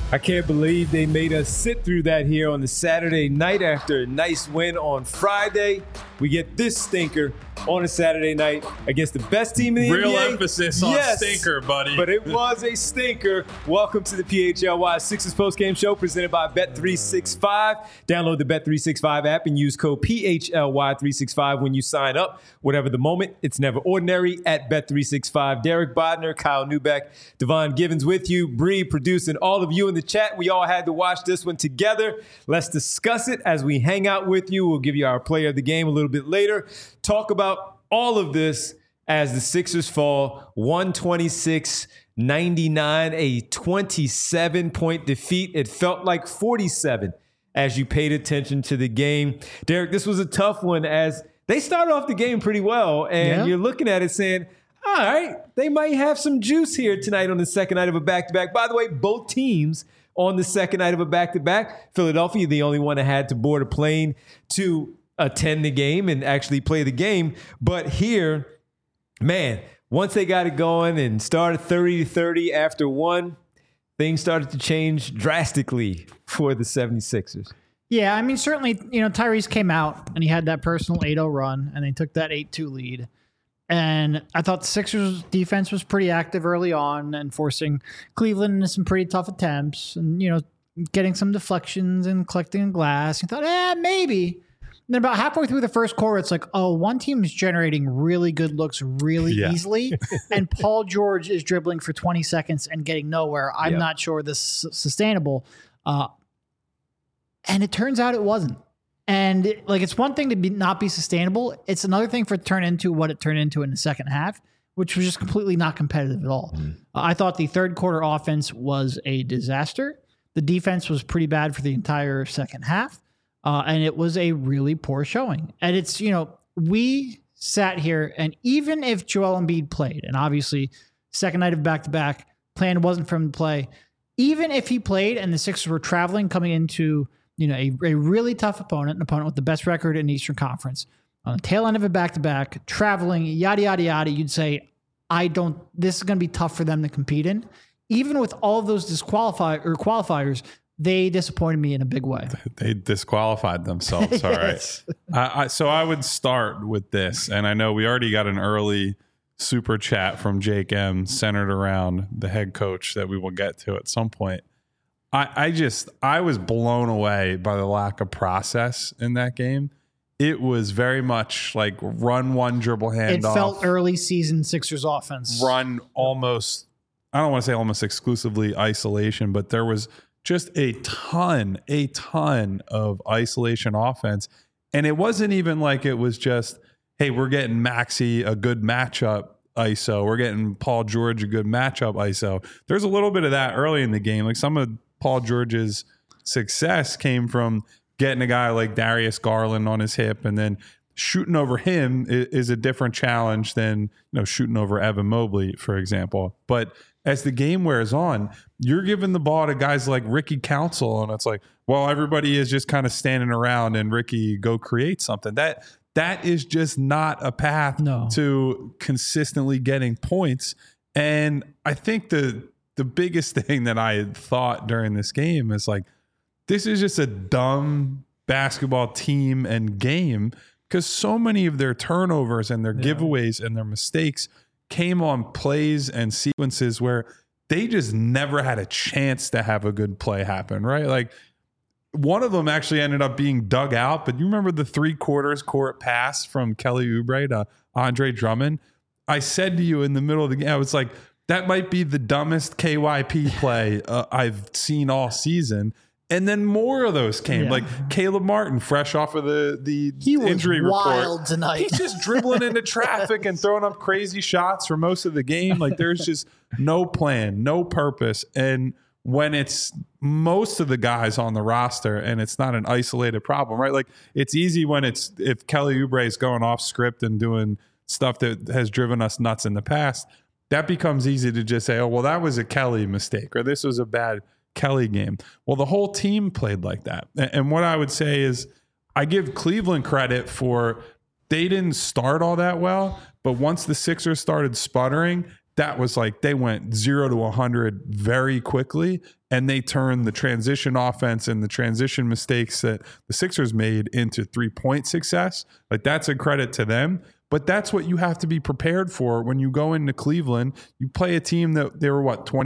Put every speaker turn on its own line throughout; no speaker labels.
I can't believe they made us sit through that here on the Saturday night after a nice win on Friday. We get this stinker on a Saturday night against the best team in the NBA.
Real emphasis on stinker, buddy.
But it was a stinker. Welcome to the PHLY Sixers postgame show presented by Bet365. Download the Bet365 app and use code PHLY365 when you sign up. Whatever the moment, it's never ordinary at Bet365. Derek Bodner, Kyle Neubeck, Devon Givens with you. Bree producing all of you in the chat. We all had to watch this one together. Let's discuss it as we hang out with you. We'll give you our player of the game a little bit later. Talk about all of this as the Sixers fall 126-99, a 27-point defeat. It felt like 47 as you paid attention to the game. Derek, this was a tough one as they started off the game pretty well, and you're looking at it saying, all right, they might have some juice here tonight on the second night of a back-to-back. By the way, both teams on the second night of a back-to-back. Philadelphia, the only one that had to board a plane to attend the game and actually play the game. But here, man, once they got it going and started 30-30 after one, things started to change drastically for the 76ers.
Yeah, I mean, certainly, Tyrese came out and he had that personal 8-0 run and they took that 8-2 lead. And I thought the Sixers defense was pretty active early on and forcing Cleveland into some pretty tough attempts and, getting some deflections and collecting a glass. You thought, maybe. And then about halfway through the first quarter, it's like, one team is generating really good looks really easily. And Paul George is dribbling for 20 seconds and getting nowhere. I'm not sure this is sustainable. And it turns out it wasn't. And it's one thing to not be sustainable. It's another thing for it to turn into what it turned into in the second half, which was just completely not competitive at all. I thought the third quarter offense was a disaster. The defense was pretty bad for the entire second half. And it was a really poor showing. And it's, we sat here and even if Joel Embiid played, and obviously second night of back-to-back, plan wasn't for him to play. Even if he played and the Sixers were traveling coming into a really tough opponent, an opponent with the best record in the Eastern Conference, on the tail end of a back-to-back, traveling, yada, yada, yada, you'd say, this is going to be tough for them to compete in. Even with all of those qualifiers, they disappointed me in a big way.
They disqualified themselves, all right. So I would start with this, and I know we already got an early super chat from Jake M centered around the head coach that we will get to at some point. I was blown away by the lack of process in that game. It was very much like run one dribble handoff.
It felt early season Sixers offense.
Run almost, I don't want to say almost exclusively isolation, but there was just a ton of isolation offense. And it wasn't even like it was just, hey, we're getting Maxey a good matchup ISO. We're getting Paul George a good matchup ISO. There's a little bit of that early in the game. Like some of Paul George's success came from getting a guy like Darius Garland on his hip, and then shooting over him is a different challenge than shooting over Evan Mobley, for example. But as the game wears on, you're giving the ball to guys like Ricky Council, and it's like, well, everybody is just kind of standing around and Ricky, go create something. That is just not a path to consistently getting points. And I think the biggest thing that I had thought during this game is like, this is just a dumb basketball team and game because so many of their turnovers and their giveaways and their mistakes came on plays and sequences where they just never had a chance to have a good play happen, right? Like one of them actually ended up being dug out, but you remember the 3/4 court pass from Kelly Oubre to Andre Drummond? I said to you in the middle of the game, I was like, that might be the dumbest KYP play I've seen all season. And then more of those came, like Caleb Martin, fresh off of the injury report.
Wild tonight.
He's just dribbling into traffic and throwing up crazy shots for most of the game. Like there's just no plan, no purpose. And when it's most of the guys on the roster and it's not an isolated problem, right? Like it's easy when if Kelly Oubre is going off script and doing stuff that has driven us nuts in the past, that becomes easy to just say, oh, well, that was a Kelly mistake or this was a bad Kelly game. Well, the whole team played like that. And what I would say is I give Cleveland credit for they didn't start all that well, but once the Sixers started sputtering, that was like they went 0 to 100 very quickly, and they turned the transition offense and the transition mistakes that the Sixers made into 3-point success. Like, that's a credit to them. But that's what you have to be prepared for when you go into Cleveland. You play a team that they were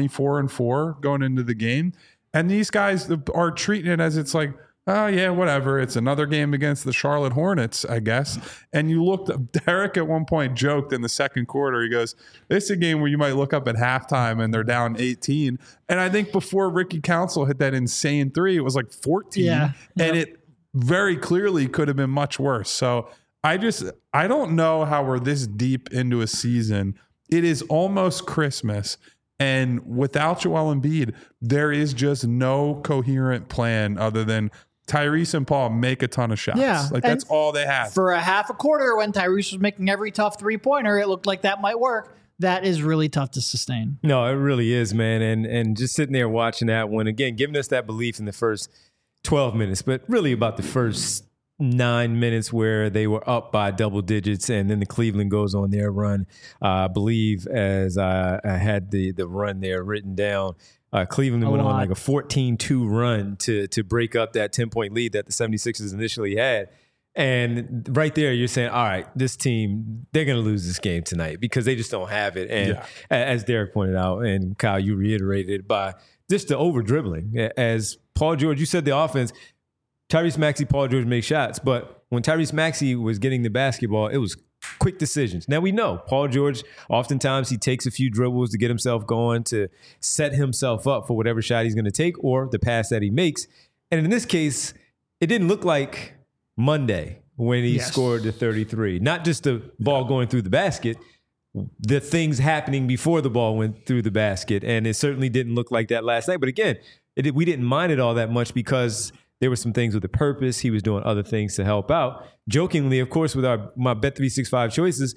24-4 going into the game, and these guys are treating it as it's like, oh yeah, whatever. It's another game against the Charlotte Hornets, I guess. And you looked up, Derek at one point joked in the second quarter, he goes, this is a game where you might look up at halftime and they're down 18. And I think before Ricky Council hit that insane three, it was like 14.
Yeah.
And it very clearly could have been much worse. So I don't know how we're this deep into a season. It is almost Christmas. And without Joel Embiid, there is just no coherent plan other than Tyrese and Paul make a ton of shots.
Yeah,
like that's all they have.
For a half a quarter, when Tyrese was making every tough 3-pointer, it looked like that might work. That is really tough to sustain.
No, it really is, man. And just sitting there watching that one, again, giving us that belief in the first 12 minutes, but really about the first 9 minutes where they were up by double digits, and then the Cleveland goes on their run. I believe, as I had the run there written down, Cleveland went on like a 14-2 run to break up that 10-point lead that the 76ers initially had. And right there, you're saying, all right, this team, they're going to lose this game tonight because they just don't have it. And as Derek pointed out, and Kyle, you reiterated, by just the over-dribbling. As Paul George, you said the offense, Tyrese Maxey, Paul George make shots. But when Tyrese Maxey was getting the basketball, it was quick decisions. Now we know Paul George, oftentimes he takes a few dribbles to get himself going, to set himself up for whatever shot he's going to take or the pass that he makes. And in this case, it didn't look like Monday when he scored the 33. Not just the ball going through the basket, the things happening before the ball went through the basket. And it certainly didn't look like that last night. But again, we didn't mind it all that much because there were some things with a purpose. He was doing other things to help out. Jokingly, of course, with my Bet365 choices,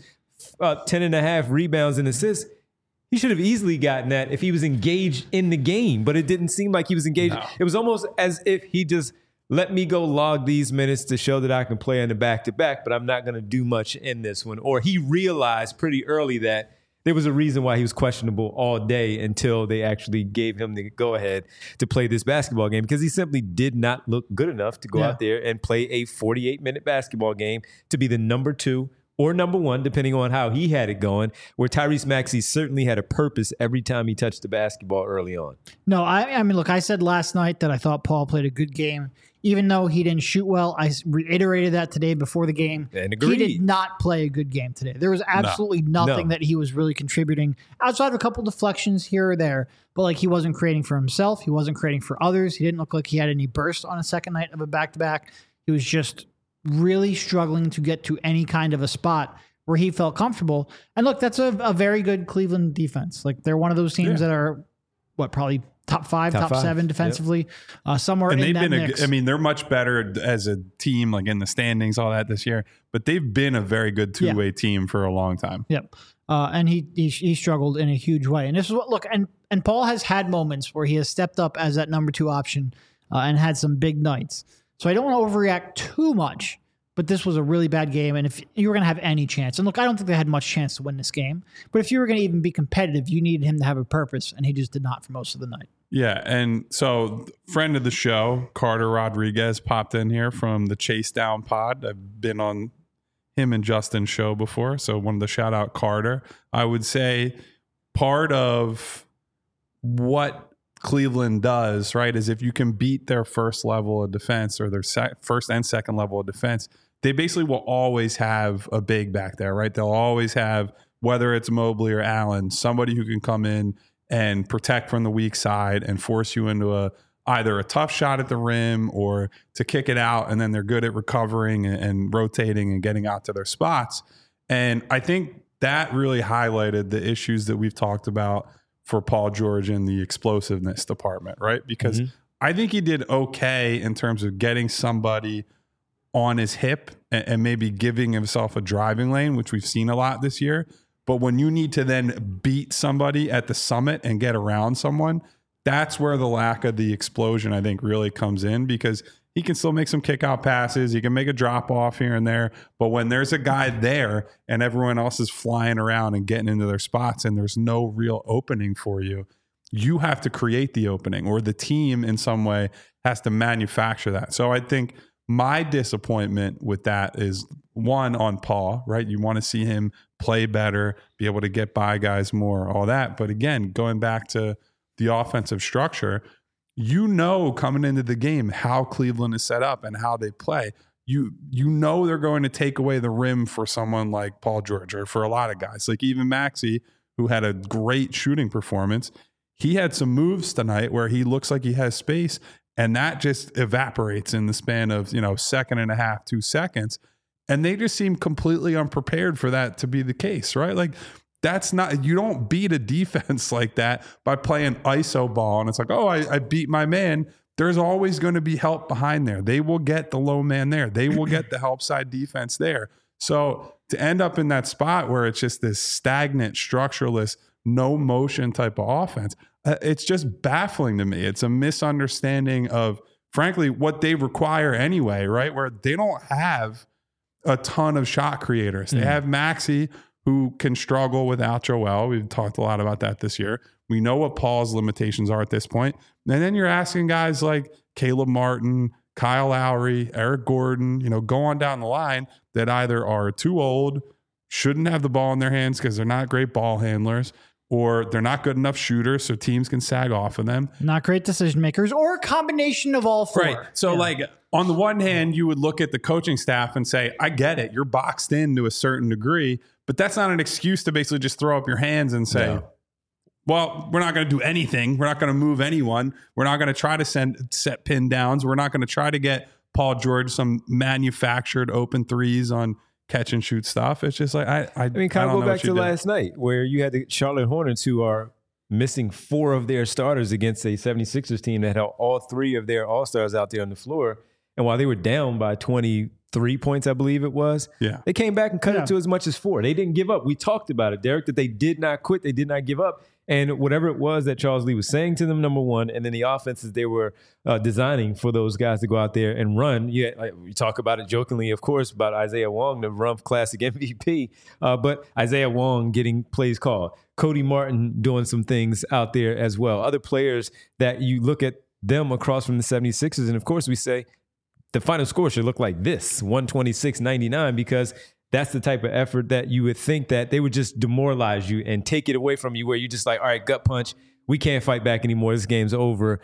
10.5 rebounds and assists. He should have easily gotten that if he was engaged in the game, but it didn't seem like he was engaged. No. It was almost as if he just let me go log these minutes to show that I can play in the back-to-back, but I'm not going to do much in this one. Or he realized pretty early that there was a reason why he was questionable all day until they actually gave him the go-ahead to play this basketball game, because he simply did not look good enough to go out there and play a 48-minute basketball game to be the number 2 or number 1, depending on how he had it going, where Tyrese Maxey certainly had a purpose every time he touched the basketball early on.
No, I mean, look, I said last night that I thought Paul played a good game. Even though he didn't shoot well, I reiterated that today before the game.
And agreed.
He did not play a good game today. There was absolutely nothing that he was really contributing outside of a couple deflections here or there. But like, he wasn't creating for himself. He wasn't creating for others. He didn't look like he had any burst on a second night of a back-to-back. He was just really struggling to get to any kind of a spot where he felt comfortable. And look, that's a very good Cleveland defense. Like, they're one of those teams that are, probably top 5, top 7 defensively, somewhere
and
in
they've
that
been
mix.
I mean, they're much better as a team, like in the standings, all that this year. But they've been a very good two-way team for a long time.
Yep. And he struggled in a huge way. And this is what, look, and Paul has had moments where he has stepped up as that number 2 option and had some big nights. So I don't want to overreact too much, but this was a really bad game. And if you were going to have any chance, and look, I don't think they had much chance to win this game, but if you were going to even be competitive, you needed him to have a purpose, and he just did not for most of the night.
Yeah, and so friend of the show, Carter Rodriguez, popped in here from the Chase Down pod. I've been on him and Justin's show before, so wanted to shout out Carter. I would say part of what Cleveland does, right, is if you can beat their first level of defense or their first and second level of defense, they basically will always have a big back there, right? They'll always have, whether it's Mobley or Allen, somebody who can come in and protect from the weak side and force you into either a tough shot at the rim or to kick it out, and then they're good at recovering and rotating and getting out to their spots. And I think that really highlighted the issues that we've talked about for Paul George in the explosiveness department, right? Because I think he did okay in terms of getting somebody on his hip and maybe giving himself a driving lane, which we've seen a lot this year. But when you need to then beat somebody at the summit and get around someone, that's where the lack of the explosion, I think, really comes in, because he can still make some kick out passes. He can make a drop off here and there. But when there's a guy there and everyone else is flying around and getting into their spots and there's no real opening for you, you have to create the opening, or the team in some way has to manufacture that. So I think my disappointment with that is, one, on Paul, right? You want to see him play better, be able to get by guys more, all that. But again, going back to the offensive structure, you know, coming into the game how Cleveland is set up and how they play. You know they're going to take away the rim for someone like Paul George, or for a lot of guys. Like even Maxey, who had a great shooting performance, he had some moves tonight where he looks like he has space, and that just evaporates in the span of, second and a half, 2 seconds. And they just seem completely unprepared for that to be the case, right? Like, that's not, you don't beat a defense like that by playing ISO ball. And it's like, oh, I beat my man. There's always going to be help behind there. They will get the low man there. They will get the help side defense there. So to end up in that spot where it's just this stagnant, structureless, no motion type of offense, it's just baffling to me. It's a misunderstanding of, frankly, what they require anyway, right? Where they don't have a ton of shot creators. They have Maxey, who can struggle without Joel. We've talked a lot about that this year. We know what Paul's limitations are at this point. And then you're asking guys like Caleb Martin, Kyle Lowry, Eric Gordon, go on down the line, that either are too old, shouldn't have the ball in their hands because they're not great ball handlers, or they're not good enough shooters so teams can sag off of them.
Not great decision makers, or a combination of all four.
Right. So on the one hand, you would look at the coaching staff and say, I get it. You're boxed in to a certain degree, but that's not an excuse to basically just throw up your hands and say, well, we're not going to do anything. We're not going to move anyone. We're not going to try to set pin downs. We're not going to try to get Paul George some manufactured open threes on catch and shoot stuff. It's just like, I mean,
kind of go back to last night where you had the Charlotte Hornets, who are missing 4 of their starters against a 76ers team that had all 3 of their all-stars out there on the floor. And while they were down by 23 points, I believe it was, they came back and cut it to as much as 4. They didn't give up. We talked about it, Derek, that they did not quit. They did not give up. And whatever it was that Charles Lee was saying to them, number one, and then the offenses they were designing for those guys to go out there and run. We talk about it jokingly, of course, about Isaiah Wong, the Rumph Classic MVP, but Isaiah Wong getting plays called. Cody Martin doing some things out there as well. Other players that you look at them across from the 76ers, and of course we say the final score should look like this, 126-99, because that's the type of effort that you would think that they would just demoralize you and take it away from you, where you're just like, all right, gut punch, we can't fight back anymore. This game's over.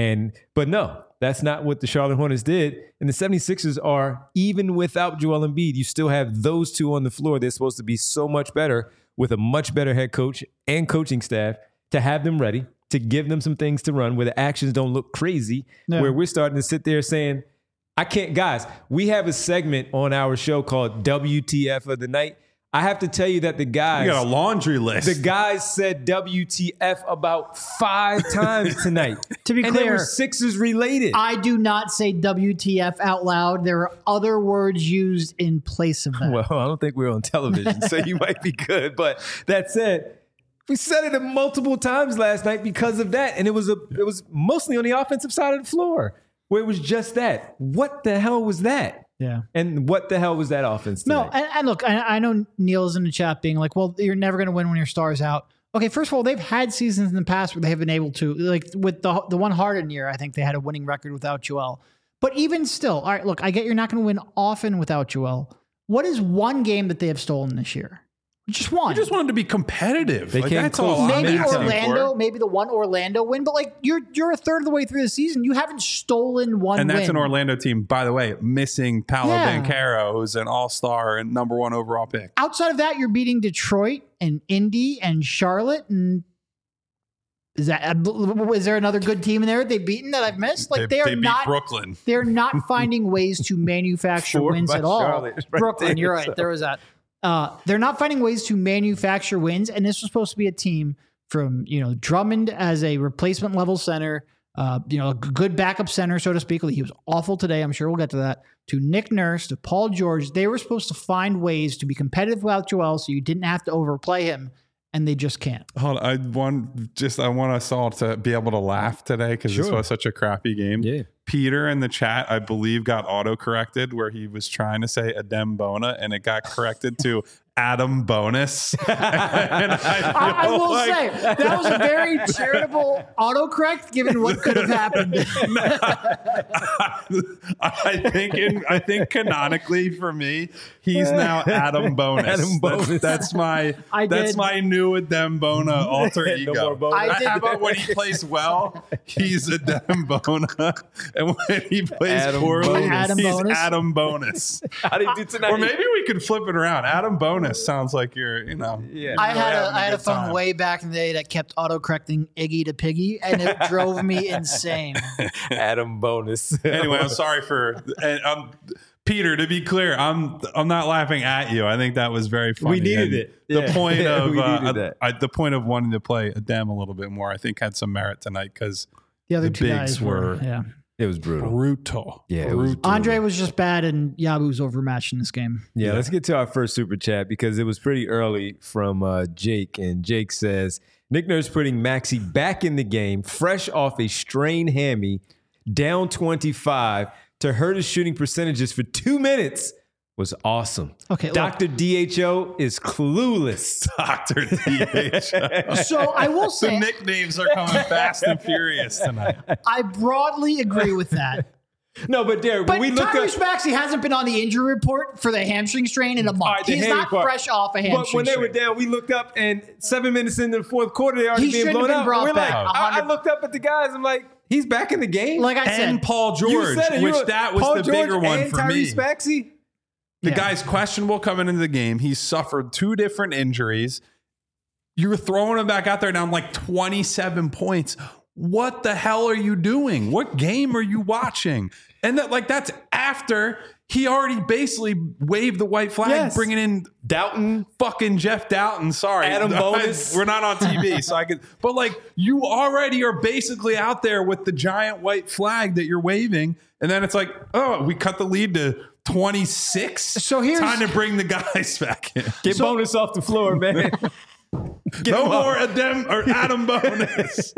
But no, that's not what the Charlotte Hornets did. And the 76ers are, even without Joel Embiid, you still have those 2 on the floor. They're supposed to be so much better with a much better head coach and coaching staff to have them ready, to give them some things to run where the actions don't look crazy, where we're starting to sit there saying, I can't, guys, we have a segment on our show called WTF of the Night. I have to tell you that the guys...
You got a laundry list.
The guys said WTF about 5 times tonight.
To be clear,
they were Sixers related.
I do not say WTF out loud. There are other words used in place of that.
Well, I don't think we're on television, so you might be good. But that said, we said it multiple times last night because of that. And it was mostly on the offensive side of the floor, where it was just that. What the hell was that?
Yeah.
And what the hell was that offense tonight?
No, and look, I know Neil's in the chat being like, well, you're never going to win when your star's out. Okay, first of all, they've had seasons in the past where they have been able to, like with the one Harden year, I think they had a winning record without Joel. But even still, all right, look, I get you're not going to win often without Joel. What is one game that they have stolen this year? Just one.
You just want them to be competitive.
They came
that's
close.
all.
Maybe Orlando, maybe the one Orlando win, but like you're a third of the way through the season. You haven't stolen one
and that's
win.
an Orlando team, by the way, missing Paolo Banchero, who's an all-star and number 1 overall pick.
Outside of that, you're beating Detroit and Indy and Charlotte. And is there another good team in there they've beaten that I've missed? Like they
beat
not
Brooklyn.
They're not finding ways to manufacture wins at all.
Charlotte,
Brooklyn, you're right. There was that. They're not finding ways to manufacture wins, and this was supposed to be a team from Drummond as a replacement level center, a good backup center, so to speak. He was awful today. I'm sure we'll get to that. To Nick Nurse, to Paul George, they were supposed to find ways to be competitive without Joel, so you didn't have to overplay him, and they just can't.
Hold on, I want us all to be able to laugh today because this was such a crappy game.
Yeah.
Peter in the chat, I believe, got auto-corrected where he was trying to say Adem Bona, and it got corrected to Adam Bonus. And
I will say that was a very charitable autocorrect given what could have happened.
I think canonically for me, he's now Adam Bonus.
Adam Bonus.
That's my new Adem Bona alter ego.
No more Bona.
How about when he plays well, he's Adem Bona, and when he plays
Adam
poorly,
Bonus.
Adam
he's
Bonus.
Adam Bonus.
How did you do tonight?
Or maybe we could flip it around. Adam Bonus sounds like you're,
Yeah.
I had
having
a
good
phone
time.
way back in the day that kept autocorrecting Iggy to Piggy, and it drove me insane.
Adam Bonus.
Anyway, I'm sorry for Peter. To be clear, I'm not laughing at you. I think that was very funny.
We needed
And
it.
The
Yeah.
point of
We needed that.
the point of wanting to play Adem a little bit more, I think, had some merit tonight because
The other
The
two
bigs
guys
were-
yeah.
It was brutal.
brutal.
Yeah, it was
brutal.
Andre was just bad, and Yabu was overmatched in this game.
Yeah, let's get to our first super chat because it was pretty early from Jake. And Jake says, Nick Nurse putting Maxey back in the game, fresh off a strained hammy, down 25 to hurt his shooting percentages for 2 minutes was awesome.
Okay, look.
Dr. DHO is clueless.
Dr. DH.
So I will
The
say,
nicknames are coming fast and furious tonight.
I broadly agree with that.
No, but Derek,
But
when we look
Tyrese
up,
Maxey hasn't been on the injury report for the hamstring strain in a month.
All right, the
He's
hammy
not
part.
fresh off a hamstring
but when they were
strain.
down, we looked up, and 7 minutes into the fourth quarter, they already
He
being
shouldn't
blown
have been
out.
brought
We're like,
back.
I looked up at the guys. I'm like, he's back in the game.
Like I
And
said,
Paul
You
George,
said it. You
which
were-
that was
Paul
the
George
bigger one
and
for
Tyrese
me.
Maxey.
The
Yeah.
guy's questionable coming into the game. He's suffered 2 different injuries. You're throwing him back out there down like 27 points. What the hell are you doing? What game are you watching? And that's after he already basically waved the white flag,
Yes.
bringing in
Doughton.
fucking Jeff Doughton. Sorry,
Adam Bonus.
We're not on TV, so I could. But you already are basically out there with the giant white flag that you're waving, and then it's like, oh, we cut the lead to 26.
So here's-
time to bring the guys back in.
Get Bonus off the floor, man.
No more Adam Bonus.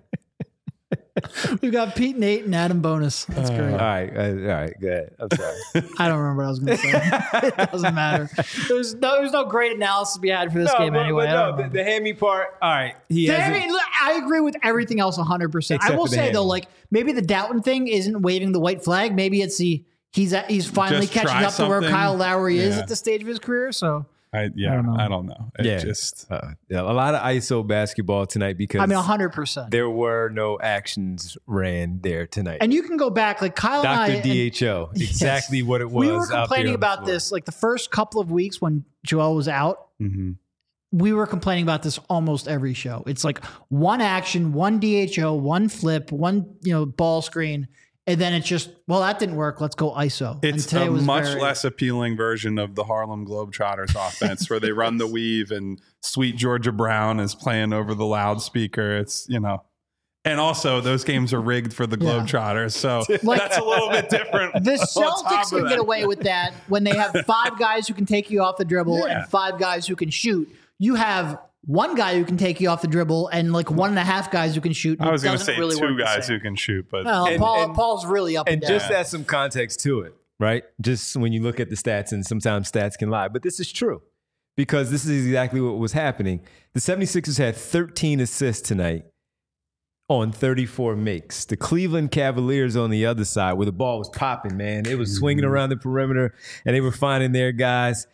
we've got Pete, Nate, and Adam Bonus. That's great.
All right, go ahead. I'm sorry.
I don't remember what I was going to say. It doesn't matter. There's no great analysis to be had for this game anyway. I don't
the
remember.
hammy part. All right, he
I
has.
mean, look, I agree with everything else 100%. I
Except
will
for the
say though,
hammy.
maybe the Doughton thing isn't waving the white flag. Maybe it's he's finally
Just
catching
try
up to where
something.
Kyle Lowry is
Yeah.
at the stage of his career. So
I don't know. It
Yeah.
just
a lot of ISO basketball tonight because
I mean, 100%.
there were no actions ran there tonight.
And you can go back, like Kyle and I.
Dr. DHO, exactly what it was.
We were
out there
complaining
on the
about
floor.
this like the first couple of weeks when Joel was out.
mhm.
We were complaining about this almost every show. It's like one action, one DHO, one flip, one ball screen, and then it's just that didn't work. Let's go ISO.
It's
and today
a
was
much
very-
less appealing version of the Harlem Globetrotters offense where they run the weave and sweet Georgia Brown is playing over the loudspeaker. It's, and also those games are rigged for the
Yeah.
Globetrotters. So
Like-
that's a little bit different.
The
on top
Celtics
of
can
that.
get away with that when they have 5 guys who can take you off the dribble
Yeah.
and 5 guys who can shoot. You have one guy who can take you off the dribble and like 1.5 guys who can shoot.
I was going to
Doesn't
say
really
2
work the
guys
same.
who can shoot, but
Well,
And-
Paul's really up and,
And
down.
just add some context to it, right? Just when you look at the stats, and sometimes stats can lie, but this is true because this is exactly what was happening. The 76ers had 13 assists tonight on 34 makes. The Cleveland Cavaliers on the other side, where the ball was popping, man, it was swinging around the perimeter, and they were finding their guys.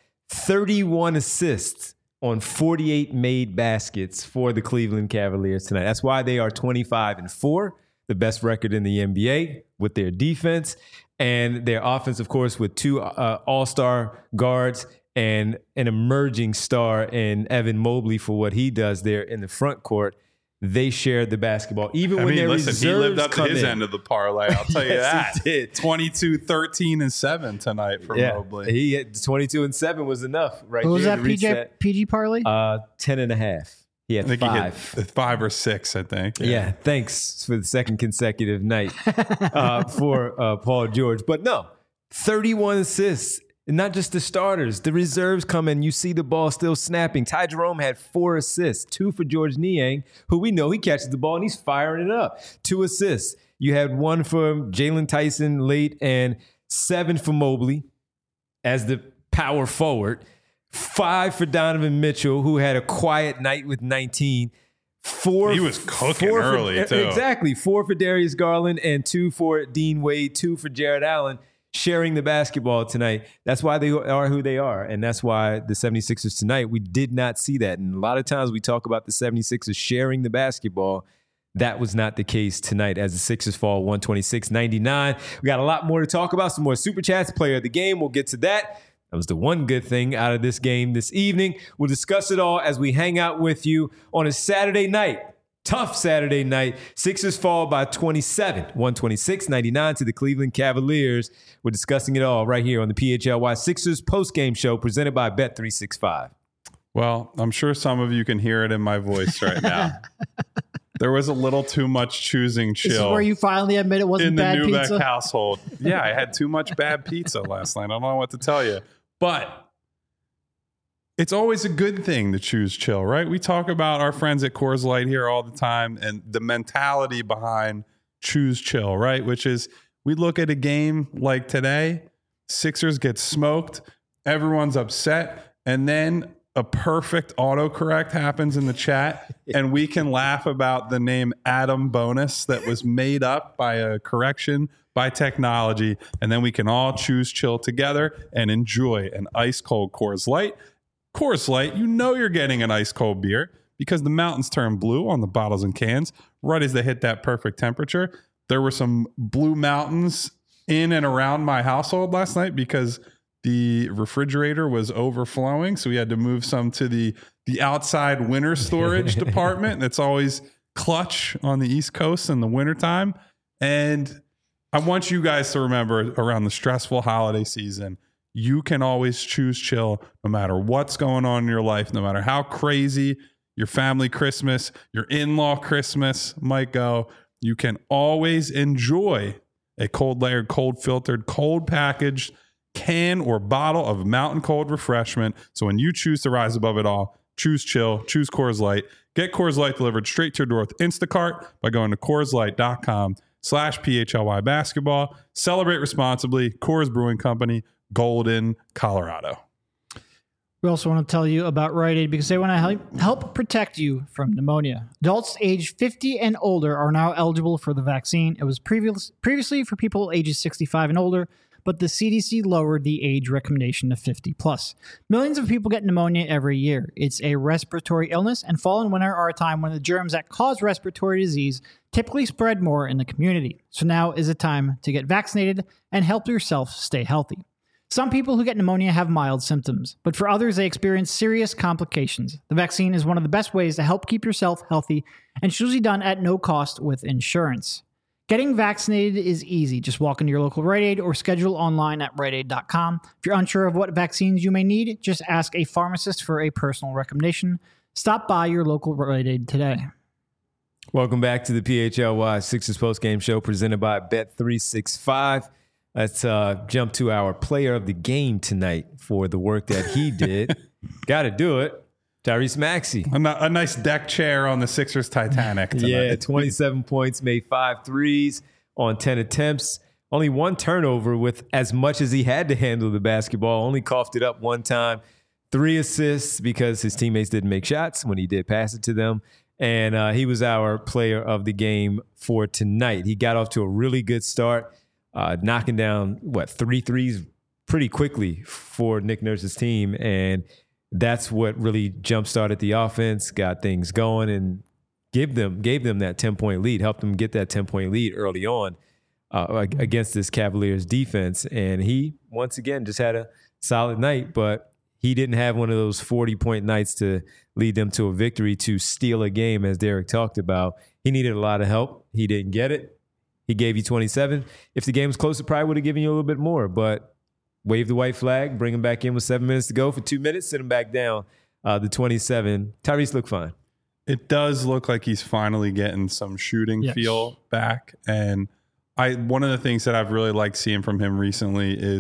31 assists on 48 made baskets for the Cleveland Cavaliers tonight. That's why they are 25-4, the best record in the NBA with their defense and their offense, of course, with 2 all-star guards and an emerging star in Evan Mobley for what he does there in the front court. They shared the basketball. Even when their
listen,
reserves
he lived up to
come
his
in.
end of the parlay. I'll tell you
Yes,
that.
he did.
22, 13, and 7 tonight for Mobley.
He had 22-7 was enough right
what was
there
that
to reach
PG parlay?
10.5. He had
I think
5.
he hit 5 or 6, I think.
Yeah, thanks for the second consecutive night for Paul George. But no, 31 assists And not just the starters, the reserves come in. You see the ball still snapping. Ty Jerome had 4 assists, 2 for George Niang, who we know he catches the ball and he's firing it up. 2 assists. You had 1 for Jalen Tyson late and 7 for Mobley as the power forward. 5 for Donovan Mitchell, who had a quiet night with 19. 4.
He was cooking early, too.
Exactly. 4 for Darius Garland and 2 for Dean Wade, 2 for Jared Allen. Sharing the basketball tonight. That's why they are who they are. And that's why the 76ers tonight, we did not see that. And a lot of times we talk about the 76ers sharing the basketball. That was not the case tonight as the Sixers fall 126-99. We got a lot more to talk about. Some more Super Chats, player of the game. We'll get to that. That was the one good thing out of this game this evening. We'll discuss it all as we hang out with you on a Saturday night. Tough Saturday night. Sixers fall by 27, 126-99 to the Cleveland Cavaliers. We're discussing it all right here on the PHLY Sixers postgame show presented by Bet365.
Well, I'm sure some of you can hear it in my voice right now. There was a little too much choosing chill.
This is where you finally admit it wasn't bad pizza?
In the Newbeck household. Yeah, I had too much bad pizza last night. I don't know what to tell you. But it's always a good thing to choose chill, right? We talk about our friends at Coors Light here all the time and the mentality behind choose chill, right? Which is we look at a game like today, Sixers get smoked, everyone's upset, and then a perfect autocorrect happens in the chat, and we can laugh about the name Adam Bonus that was made up by a correction by technology, and then we can all choose chill together and enjoy an ice-cold Coors Light. Coors Light, you know you're getting an ice-cold beer because the mountains turn blue on the bottles and cans right as they hit that perfect temperature. There were some blue mountains in and around my household last night because the refrigerator was overflowing, so we had to move some to the outside winter storage department. That's always clutch on the East Coast in the wintertime. And I want you guys to remember around the stressful holiday season, you can always choose chill no matter what's going on in your life, no matter how crazy your family Christmas, your in-law Christmas might go. You can always enjoy a cold layered, cold filtered, cold packaged can or bottle of mountain cold refreshment. So when you choose to rise above it all, choose chill, choose Coors Light. Get Coors Light delivered straight to your door with Instacart by going to CoorsLight.com/PHLY basketball. Celebrate responsibly. Coors Brewing Company, Golden, Colorado.
We also want to tell you about Rite Aid because they want to help protect you from pneumonia. Adults age 50 and older are now eligible for the vaccine. It was previously for people ages 65 and older, but the CDC lowered the age recommendation to 50 plus. Millions of people get pneumonia every year. It's a respiratory illness, and fall and winter are a time when the germs that cause respiratory disease typically spread more in the community. So now is the time to get vaccinated and help yourself stay healthy. Some people who get pneumonia have mild symptoms, but for others, they experience serious complications. The vaccine is one of the best ways to help keep yourself healthy, and it's usually done at no cost with insurance. Getting vaccinated is easy. Just walk into your local Rite Aid or schedule online at riteaid.com. If you're unsure of what vaccines you may need, just ask a pharmacist for a personal recommendation. Stop by your local Rite Aid today.
Welcome back to the PHLY Sixers postgame show presented by Bet365. Let's jump to our player of the game tonight for the work that he did. Got to do it. Tyrese Maxey.
A nice deck chair on the Sixers Titanic tonight.
Yeah, 27 points, made 5 threes on 10 attempts. Only 1 turnover with as much as he had to handle the basketball. Only coughed it up 1 time. 3 assists because his teammates didn't make shots when he did pass it to them. And he was our player of the game for tonight. He got off to a really good start, knocking down, 3 threes pretty quickly for Nick Nurse's team. And that's what really jump-started the offense, got things going, and gave them that 10-point lead, helped them get that 10-point lead early on against this Cavaliers defense. And he, once again, just had a solid night, but he didn't have one of those 40-point nights to lead them to a victory, to steal a game, as Derek talked about. He needed a lot of help. He didn't get it. He gave you 27. If the game was closer, probably would have given you a little bit more, but wave the white flag, bring him back in with 7 minutes to go for 2 minutes, sit him back down, the 27. Tyrese looked fine.
It does look like he's finally getting some shooting feel back. And one of the things that I've really liked seeing from him recently is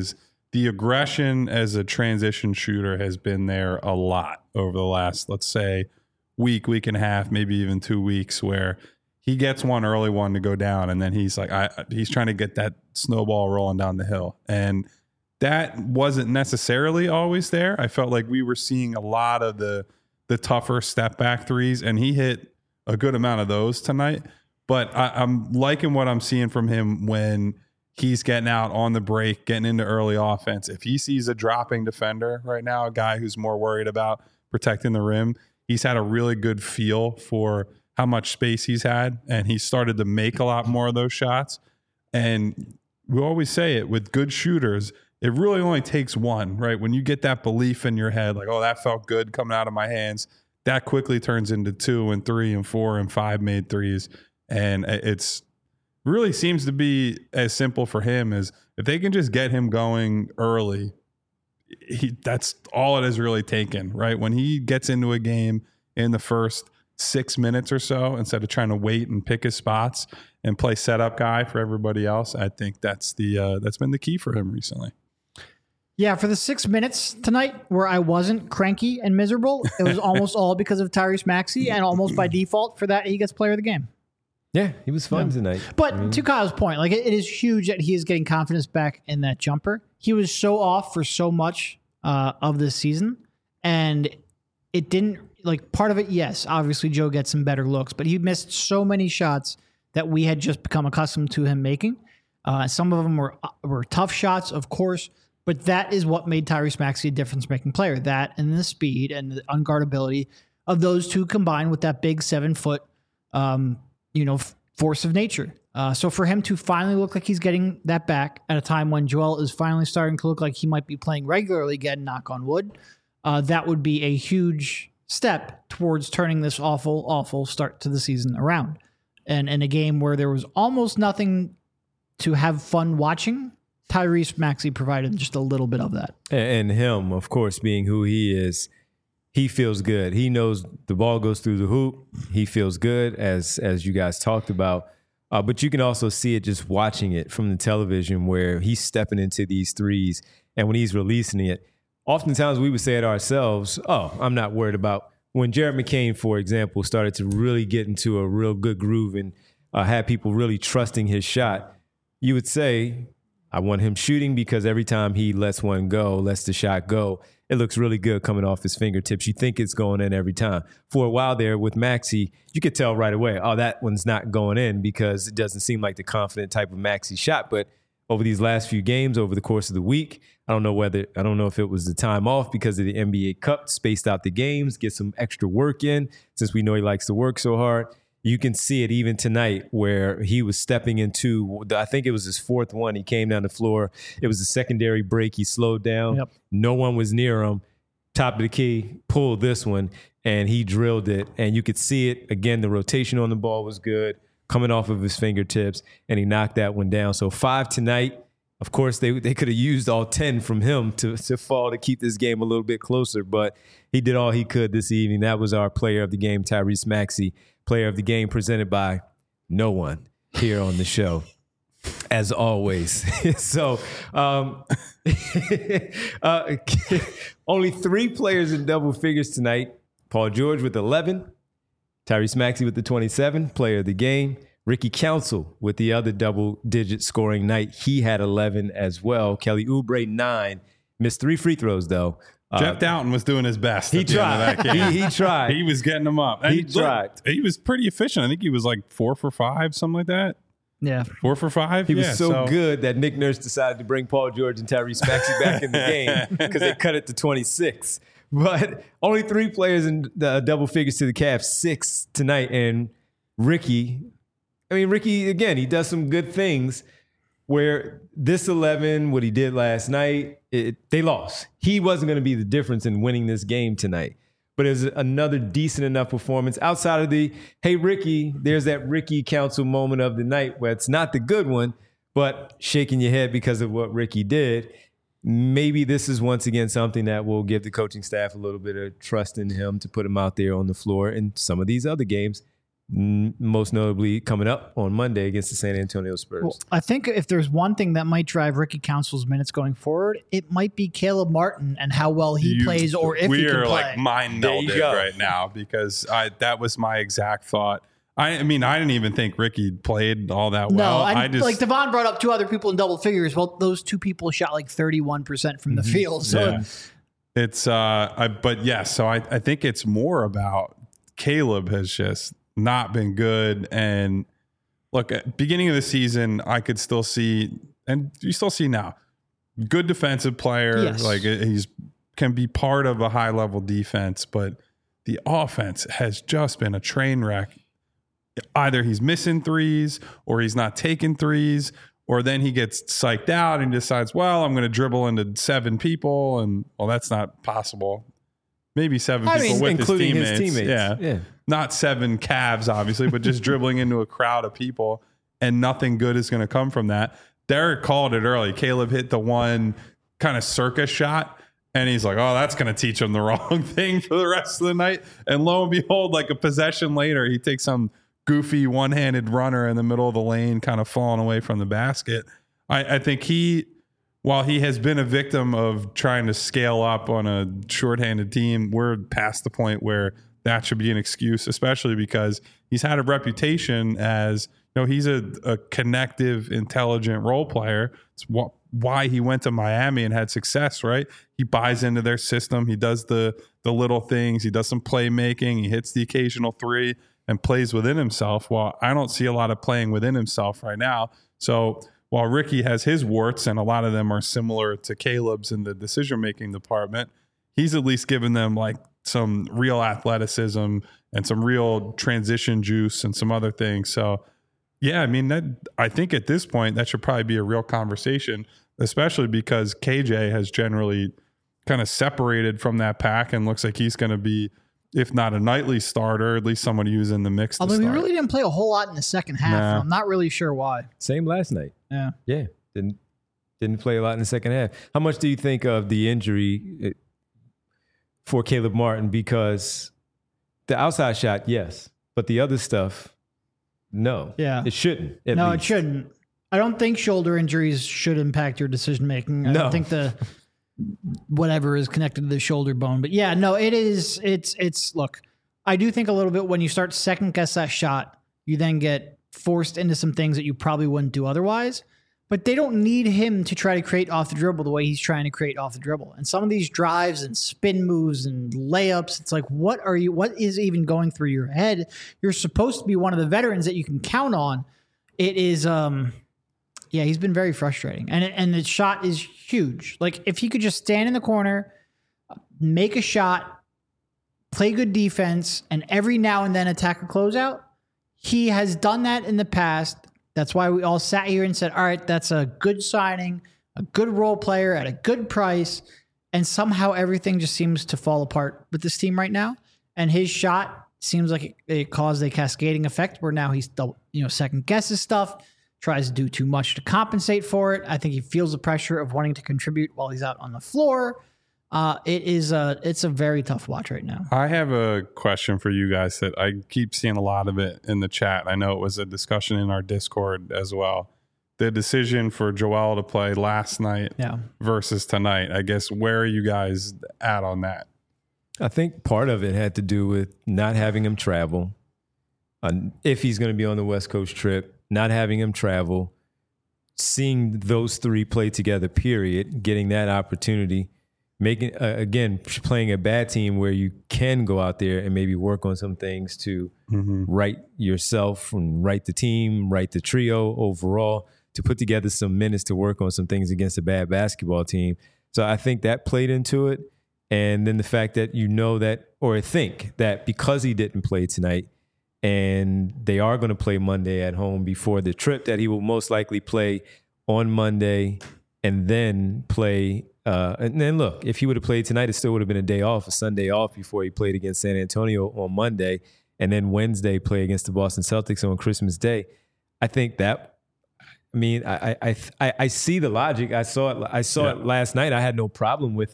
the aggression as a transition shooter has been there a lot over the last, let's say, week and a half, maybe even 2 weeks, where he gets one early one to go down, and then he's like, he's trying to get that snowball rolling down the hill. And that wasn't necessarily always there. I felt like we were seeing a lot of the tougher step back threes, and he hit a good amount of those tonight. But I'm liking what I'm seeing from him when he's getting out on the break, getting into early offense. If he sees a dropping defender right now, a guy who's more worried about protecting the rim, he's had a really good feel for how much space he's had, and he started to make a lot more of those shots. And we always say it with good shooters, it really only takes one, right? When you get that belief in your head, like, oh, that felt good coming out of my hands, that quickly turns into 2 and 3 and 4 and 5 made threes. And it's really seems to be as simple for him as if they can just get him going early, that's all it has really taken, right? When he gets into a game in the first 6 minutes or so, instead of trying to wait and pick his spots and play setup guy for everybody else, I think that's been the key for him recently.
Yeah, for the 6 minutes tonight where I wasn't cranky and miserable, it was almost all because of Tyrese Maxey, and almost by default for that, he gets player of the game.
Yeah, he was fun tonight.
But to Kyle's point, like it is huge that he is getting confidence back in that jumper. He was so off for so much of this season, and it didn't, like, part of it, yes, obviously Joe gets some better looks, but he missed so many shots that we had just become accustomed to him making. Some of them were tough shots, of course, but that is what made Tyrese Maxey a difference-making player. That and the speed and the unguardability of those two combined with that big 7-foot force of nature. So for him to finally look like he's getting that back at a time when Joel is finally starting to look like he might be playing regularly again, knock on wood, that would be a huge step towards turning this awful start to the season around. And in a game where there was almost nothing to have fun watching, Tyrese Maxey provided just a little bit of that.
And him, of course, being who he is, he feels good. He knows the ball goes through the hoop. He feels good, as you guys talked about. But you can also see it just watching it from the television, where he's stepping into these threes, and when he's releasing it, oftentimes we would say it ourselves, oh, I'm not worried about. When Jared McCain, for example, started to really get into a real good groove and had people really trusting his shot, you would say, I want him shooting, because every time he lets the shot go, it looks really good coming off his fingertips. You think it's going in every time. For a while there with Maxey, you could tell right away, oh, that one's not going in, because it doesn't seem like the confident type of Maxey shot. But over these last few games, over the course of the week, I don't know if it was the time off because of the NBA Cup, spaced out the games, get some extra work in, since we know he likes to work so hard. You can see it even tonight, where he was stepping into, I think it was his fourth one. He came down the floor. It was a secondary break. He slowed down. Yep. No one was near him. Top of the key, pulled this one, and he drilled it. And you could see it. Again, the rotation on the ball was good, coming off of his fingertips, and he knocked that one down. So 5 tonight. Of course, they could have used all 10 from him to fall to keep this game a little bit closer, but he did all he could this evening. That was our player of the game, Tyrese Maxey. Player of the game presented by no one here on the show, as always. So only 3 players in double figures tonight. Paul George with 11, Tyrese Maxey with the 27, player of the game. Ricky Council with the other double-digit scoring night. He had 11 as well. Kelly Oubre, 9. Missed 3 free throws, though.
Jeff Doughton was doing his best.
He tried. He tried.
He was getting them up. And
he tried.
He was pretty efficient. I think he was like 4 for 5, something like that.
Yeah.
4 for 5.
He was so good that Nick Nurse decided to bring Paul George and Tyrese Maxey back in the game because they cut it to 26. But only 3 players in the double figures to the Cavs, 6 tonight. And Ricky, again, he does some good things. Where this 11, what he did last night, they lost. He wasn't going to be the difference in winning this game tonight. But it was another decent enough performance outside of the, hey, Ricky, there's that Ricky Council moment of the night where it's not the good one, but shaking your head because of what Ricky did. Maybe this is once again something that will give the coaching staff a little bit of trust in him to put him out there on the floor. In some of these other games, most notably coming up on Monday against the San Antonio Spurs.
Well, I think if there's one thing that might drive Ricky Council's minutes going forward, it might be Caleb Martin and how well he plays, or if he can play.
We are like mind melded right now, because that was my exact thought. I mean, I didn't even think Ricky played all that well.
No, like Devon brought up two other people in double figures. Well, those two people shot like 31% from the field. So
yeah. It's but yes, so I think it's more about Caleb has just not been good. And look, at beginning of the season, I could still see, and you still see now, good defensive player.
Yes.
Like he's can be part of a high level defense, but the offense has just been a train wreck. Either he's missing threes, or he's not taking threes, or then he gets psyched out and decides, well, I'm going to dribble into 7 people, and well, that's not possible. Maybe 7 people with
including
his teammates.
Yeah.
Not 7 Cavs, obviously, but just dribbling into a crowd of people, and nothing good is going to come from that. Derek called it early. Caleb hit the one kind of circus shot, and he's like, oh, that's going to teach him the wrong thing for the rest of the night. And lo and behold, like a possession later, he takes some goofy one-handed runner in the middle of the lane, kind of falling away from the basket. I think while he has been a victim of trying to scale up on a shorthanded team, we're past the point where that should be an excuse, especially because he's had a reputation as, he's a connective, intelligent role player. It's why he went to Miami and had success, right? He buys into their system. He does the little things. He does some playmaking. He hits the occasional three and plays within himself. Well, I don't see a lot of playing within himself right now. So while Ricky has his warts, and a lot of them are similar to Caleb's in the decision-making department, he's at least given them like some real athleticism and some real transition juice and some other things. So yeah, I mean, I think at this point that should probably be a real conversation, especially because KJ has generally kind of separated from that pack and looks like he's going to be, if not a nightly starter, at least someone who's in the mix.
Although he really didn't play a whole lot in the second half, and I'm not really sure why.
Same last night.
Yeah.
Didn't play a lot in the second half. How much do you think of the injury for Caleb Martin? Because the outside shot, yes, but the other stuff, no.
Yeah.
It shouldn't.
It shouldn't. I don't think shoulder injuries should impact your decision making. I don't think whatever is connected to the shoulder bone. But yeah, no, it's look, I do think a little bit when you start second guess that shot, you then get forced into some things that you probably wouldn't do otherwise. But they don't need him to try to create off the dribble the way he's trying to create off the dribble. And some of these drives and spin moves and layups, it's like, what is even going through your head? You're supposed to be one of the veterans that you can count on. It is, he's been very frustrating. And the shot is huge. Like, if he could just stand in the corner, make a shot, play good defense, and every now and then attack a closeout, he has done that in the past. That's why we all sat here and said, all right, that's a good signing, a good role player at a good price. And somehow everything just seems to fall apart with this team right now. And his shot seems like it caused a cascading effect where now he's second guesses stuff, tries to do too much to compensate for it. I think he feels the pressure of wanting to contribute while he's out on the floor. It's a very tough watch right now.
I have a question for you guys that I keep seeing a lot of it in the chat. I know it was a discussion in our Discord as well. The decision for Joel to play last night versus tonight. I guess, where are you guys at on that?
I think part of it had to do with not having him travel. If he's going to be on the West Coast trip, not having him travel, seeing those three play together, period, getting that opportunity. Making playing a bad team where you can go out there and maybe work on some things to right yourself and right the team, right the trio overall, to put together some minutes to work on some things against a bad basketball team. So I think that played into it. And then the fact that think that because he didn't play tonight and they are going to play Monday at home before the trip, that he will most likely play on Monday and then play. And then look, if he would have played tonight, it still would have been a Sunday off before he played against San Antonio on Monday, and then Wednesday play against the Boston Celtics on Christmas Day. I think that, I mean, I see the logic. I saw it last night. I had no problem with it.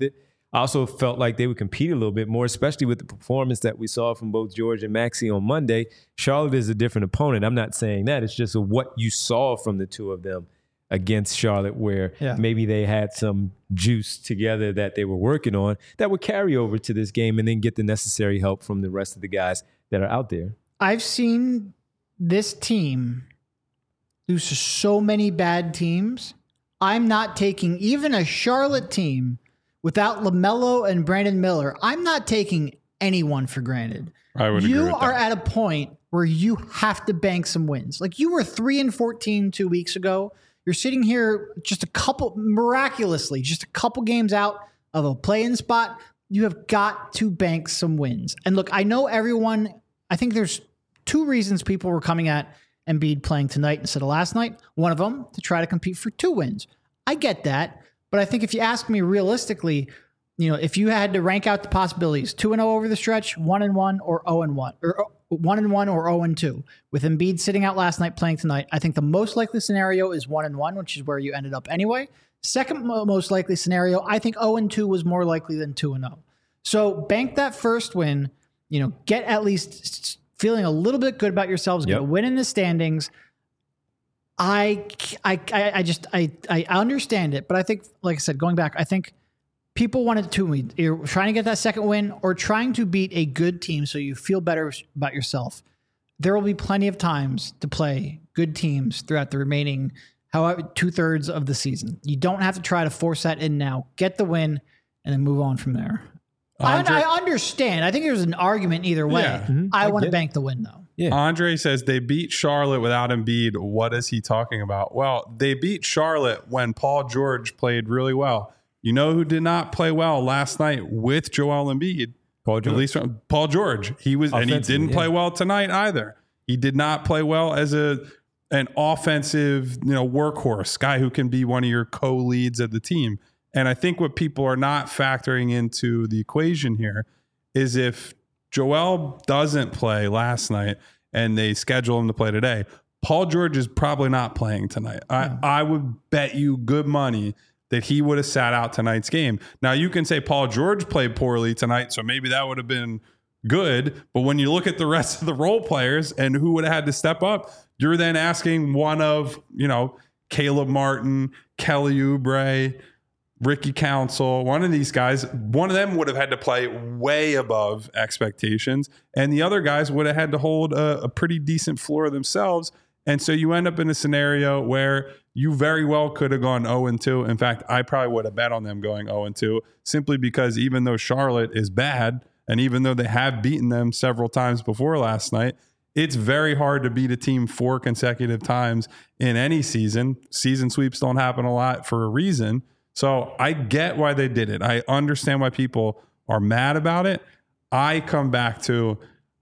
I also felt like they would compete a little bit more, especially with the performance that we saw from both George and Maxey on Monday. Charlotte is a different opponent. I'm not saying that. It's just what you saw from the two of them against Charlotte, where maybe they had some juice together that they were working on that would carry over to this game and then get the necessary help from the rest of the guys that are out there.
I've seen this team lose to so many bad teams. I'm not taking even a Charlotte team without LaMelo and Brandon Miller. I'm not taking anyone for granted.
I would agree with
You
that.
are at a point where you have to bank some wins. Like you were 3-14 2 weeks ago. You're sitting here miraculously, just a couple games out of a play-in spot. You have got to bank some wins. And look, I know I think there's two reasons people were coming at Embiid playing tonight instead of last night. One of them, to try to compete for 2 wins. I get that. But I think if you ask me realistically, if you had to rank out the possibilities, 2-0 over the stretch, 1-1 or 0-1, or 1-1 or 0-2. With Embiid sitting out last night, playing tonight, I think the most likely scenario is 1-1, which is where you ended up anyway. Second most likely scenario, I think 0-2 was more likely than 2-0. So bank that first win, get at least feeling a little bit good about yourselves, get a win in the standings. I understand it, but I think, like I said, going back, I think people wanted to. You're trying to get that second win or trying to beat a good team so you feel better about yourself. There will be plenty of times to play good teams throughout the remaining, however, 2/3 of the season. You don't have to try to force that in now. Get the win and then move on from there. I understand. I think there's an argument either way.
Yeah.
I want to bank the win, though.
Yeah.
Andre says they beat Charlotte without Embiid. What is he talking about? Well, they beat Charlotte when Paul George played really well. You know who did not play well last night with Joel Embiid?
Paul George.
At least Paul George. He didn't play well tonight either. He did not play well as an offensive, workhorse guy who can be one of your co-leads of the team. And I think what people are not factoring into the equation here is if Joel doesn't play last night and they schedule him to play today, Paul George is probably not playing tonight. I would bet you good money that he would have sat out tonight's game. Now, you can say Paul George played poorly tonight, so maybe that would have been good. But when you look at the rest of the role players and who would have had to step up, you're then asking one of, Caleb Martin, Kelly Oubre, Ricky Council, one of these guys, one of them would have had to play way above expectations, and the other guys would have had to hold a pretty decent floor themselves. And so you end up in a scenario where you very well could have gone 0-2. In fact, I probably would have bet on them going 0-2 simply because even though Charlotte is bad, and even though they have beaten them several times before last night, it's very hard to beat a team 4 consecutive times in any season. Season sweeps don't happen a lot for a reason. So I get why they did it. I understand why people are mad about it. I come back to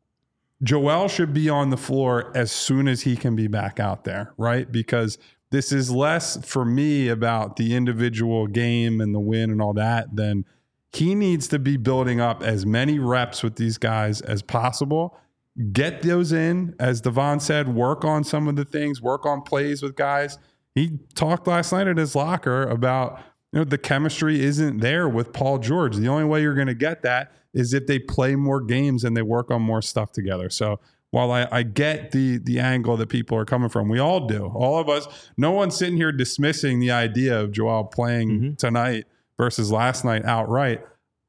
Joel should be on the floor as soon as he can be back out there, right? Because this is less for me about the individual game and the win and all that than he needs to be building up as many reps with these guys as possible. Get those in, as Devon said, work on some of the things, work on plays with guys. He talked last night at his locker about the chemistry isn't there with Paul George. The only way you're going to get that is if they play more games and they work on more stuff together. So while I get the angle that people are coming from, we all do. All of us, no one's sitting here dismissing the idea of Joel playing tonight versus last night outright.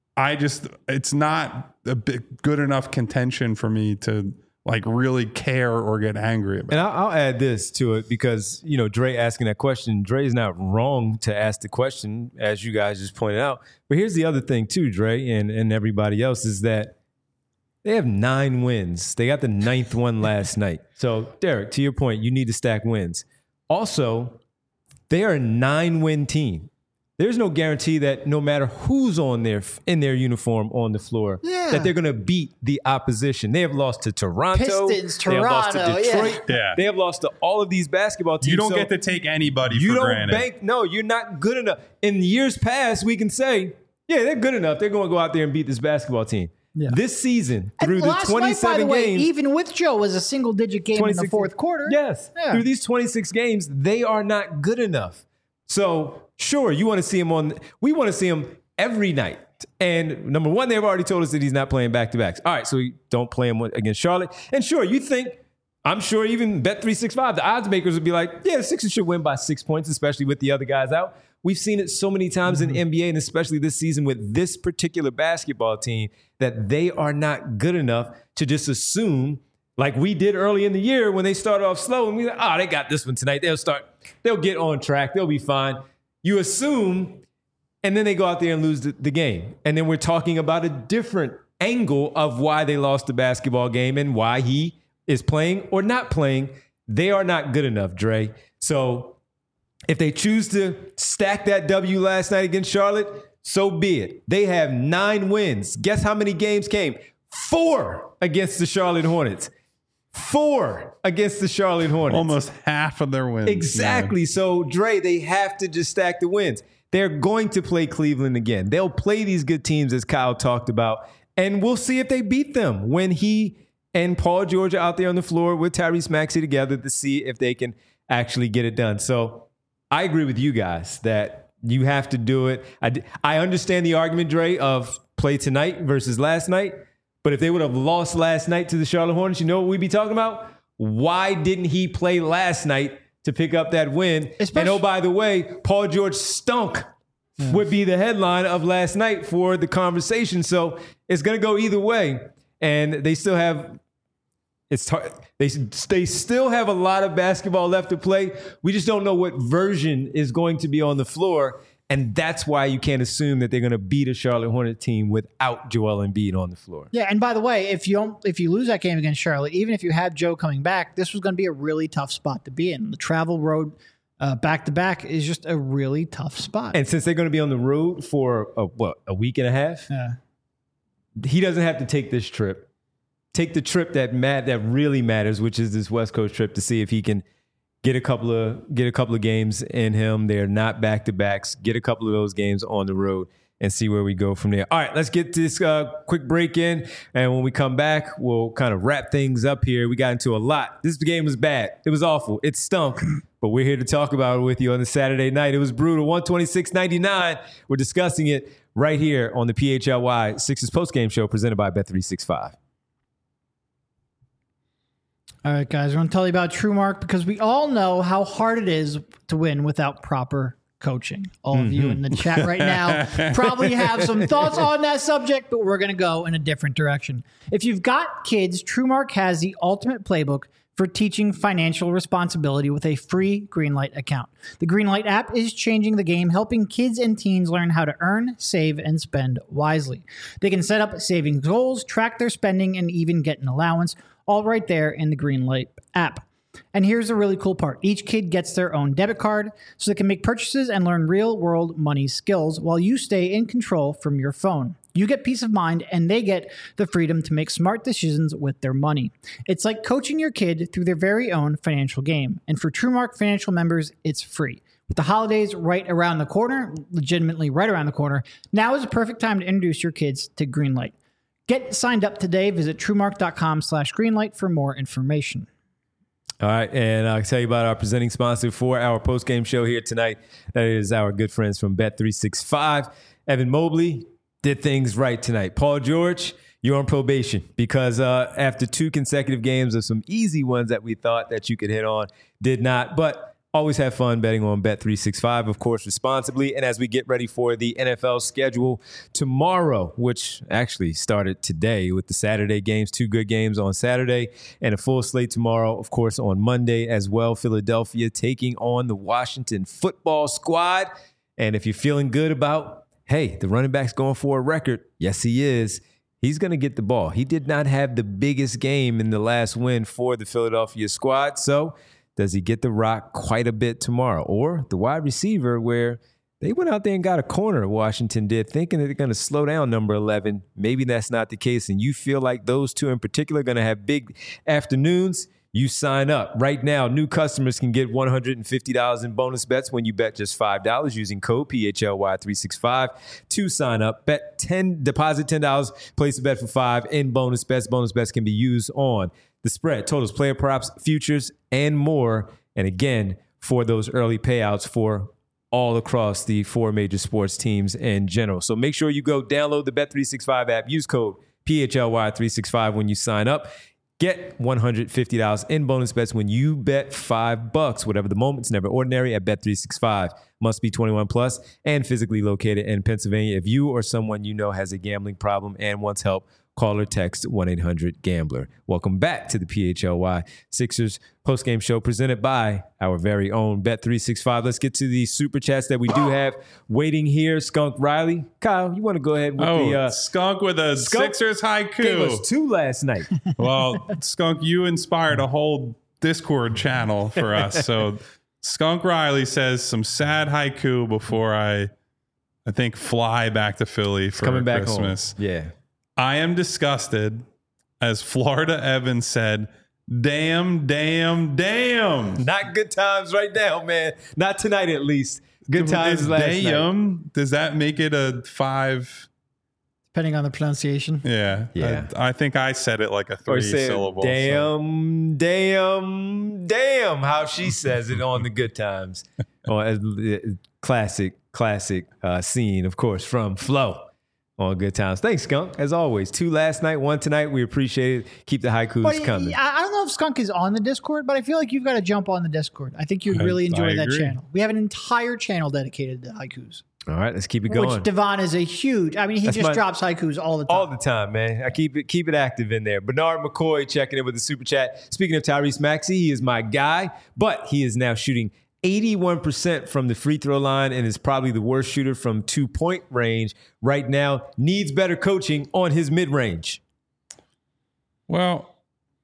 It's not a good enough contention for me to really care or get angry about.
And I'll add this to it because, Dre asking that question, Dre's not wrong to ask the question, as you guys just pointed out. But here's the other thing too, Dre and everybody else, is that they have 9 wins. They got the 9th one last night. So, Derek, to your point, you need to stack wins. Also, they are a 9-win team. There's no guarantee that no matter who's in their uniform on the floor, that they're going to beat the opposition. They have lost to Toronto.
Pistons,
They have lost to
Toronto,
Detroit.
Yeah.
They have lost to all of these basketball teams.
You don't
So
get to take anybody
you
for
don't
granted.
No, you're not good enough. In years past, we can say, yeah, they're good enough. They're going to go out there and beat this basketball team.
Yeah.
This season,
And
through the
last
27
night, by the way,
games,
even with Joe, was a single-digit game in the
26
fourth quarter.
Yes.
Yeah.
Through these 26 games, they are not good enough. So, sure, you want to see him we want to see him every night. And number one, they've already told us that he's not playing back-to-backs. All right, so we don't play him against Charlotte. And sure, I'm sure even Bet365, the odds makers would be like, yeah, the Sixers should win by 6 points, especially with the other guys out. We've seen it so many times in the NBA, and especially this season with this particular basketball team, that they are not good enough to just assume, like we did early in the year when they started off slow, and we like, they got this one tonight. They'll get on track. They'll be fine. You assume, and then they go out there and lose the game. And then we're talking about a different angle of why they lost the basketball game and why he is playing or not playing. They are not good enough, Dre. So if they choose to stack that W last night against Charlotte, so be it. They have 9 wins. Guess how many games came? 4 against the Charlotte Hornets. 4 against the Charlotte Hornets.
Almost half of their wins.
Exactly. Yeah. So, Dre, they have to just stack the wins. They're going to play Cleveland again. They'll play these good teams, as Kyle talked about, and we'll see if they beat them when he and Paul George are out there on the floor with Tyrese Maxey together to see if they can actually get it done. So I agree with you guys that you have to do it. I understand the argument, Dre, of play tonight versus last night. But if they would have lost last night to the Charlotte Hornets, you know what we'd be talking about? Why didn't he play last night to pick up that win? And oh, by the way, Paul George stunk would be the headline of last night for the conversation. So it's going to go either way. And they still have... They still have a lot of basketball left to play. We just don't know what version is going to be on the floor. And that's why you can't assume that they're going to beat a Charlotte Hornet team without Joel Embiid on the floor.
Yeah, and by the way, if you lose that game against Charlotte, even if you have Joe coming back, this was going to be a really tough spot to be in. The travel road back-to-back is just a really tough spot.
And since they're going to be on the road for, a week and a half?
Yeah.
He doesn't have to take this trip. Take the trip that really matters, which is this West Coast trip, to see if he can get a couple of games in him. They're not back-to-backs. Get a couple of those games on the road and see where we go from there. All right, let's get this quick break in, and when we come back, we'll kind of wrap things up here. We got into a lot. This game was bad. It was awful. It stunk, but we're here to talk about it with you on the Saturday night. It was brutal. 126-99. We're discussing it right here on the PHLY Sixers postgame show presented by Bet365.
All right, guys, we're going to tell you about TrueMark because we all know how hard it is to win without proper coaching. All of you in the chat right now probably have some thoughts on that subject, but we're going to go in a different direction. If you've got kids, TrueMark has the ultimate playbook for teaching financial responsibility with a free Greenlight account. The Greenlight app is changing the game, helping kids and teens learn how to earn, save, and spend wisely. They can set up savings goals, track their spending, and even get an allowance, all right there in the Greenlight app. And here's the really cool part. Each kid gets their own debit card so they can make purchases and learn real-world money skills while you stay in control from your phone. You get peace of mind, and they get the freedom to make smart decisions with their money. It's like coaching your kid through their very own financial game. And for TrueMark Financial members, it's free. With the holidays right around the corner, legitimately right around the corner, now is the perfect time to introduce your kids to Greenlight. Get signed up today. Visit TrueMark.com/Greenlight for more information.
All right, and I'll tell you about our presenting sponsor for our post-game show here tonight. That is our good friends from Bet365. Evan Mobley did things right tonight. Paul George, you're on probation because after 2 consecutive games of some easy ones that we thought that you could hit on, did not. But always have fun betting on Bet365, of course, responsibly. And as we get ready for the NFL schedule tomorrow, which actually started today with the Saturday games, 2 good games on Saturday and a full slate tomorrow, of course, on Monday as well. Philadelphia taking on the Washington football squad. And if you're feeling good about, hey, the running back's going for a record, yes, he is. He's going to get the ball. He did not have the biggest game in the last win for the Philadelphia squad. So does he get the rock quite a bit tomorrow? Or the wide receiver, where they went out there and got a corner, Washington did, thinking that they're going to slow down number 11. Maybe that's not the case, and you feel like those two in particular are going to have big afternoons. You sign up. Right now, new customers can get $150 in bonus bets when you bet just $5 using code PHLY365 to sign up. Deposit $10, place a bet for $5 in bonus bets. Bonus bets can be used on the spread, totals, player props, futures, and more. And again, for those early payouts for all across the 4 major sports teams in general. So make sure you go download the Bet365 app. Use code PHLY365 when you sign up. Get $150 in bonus bets when you bet $5. Whatever the moment's never ordinary at Bet365. Must be 21 plus and physically located in Pennsylvania. If you or someone you know has a gambling problem and wants help, call or text 1-800-GAMBLER. Welcome back to the PHLY Sixers postgame show presented by our very own Bet365. Let's get to the super chats that we do have waiting here. Skunk Riley. Kyle, you want to go ahead with the...
Skunk with a Sixers haiku.
Gave us 2 last night.
Well, Skunk, you inspired a whole Discord channel for us. So Skunk Riley says some sad haiku before I think fly back to Philly for
Coming back
Christmas.
home. Yeah.
I am disgusted, as Florida Evan said, damn, damn, damn.
Not good times right now, man. Not tonight, at least. Good times last night.
Damn, does that make it a 5?
Depending on the pronunciation.
Yeah. I think I said it like a 3-syllable.
Damn, damn, damn. How she says it on the good times. Classic scene, of course, from Flo. On Good Times. Thanks, Skunk. As always, 2 last night, 1 tonight. We appreciate it. Keep the haikus coming.
I don't know if Skunk is on the Discord, but I feel like you've got to jump on the Discord. I think you'd really enjoy that channel. We have an entire channel dedicated to haikus.
All right, let's keep it going.
Which Devon is a huge. I mean, he drops haikus all the time.
All the time, man. I keep it active in there. Bernard McCoy checking in with the super chat. Speaking of Tyrese Maxey, he is my guy, but he is now shooting 81% from the free throw line and is probably the worst shooter from 2-point range right now. Needs better coaching on his mid-range.
Well,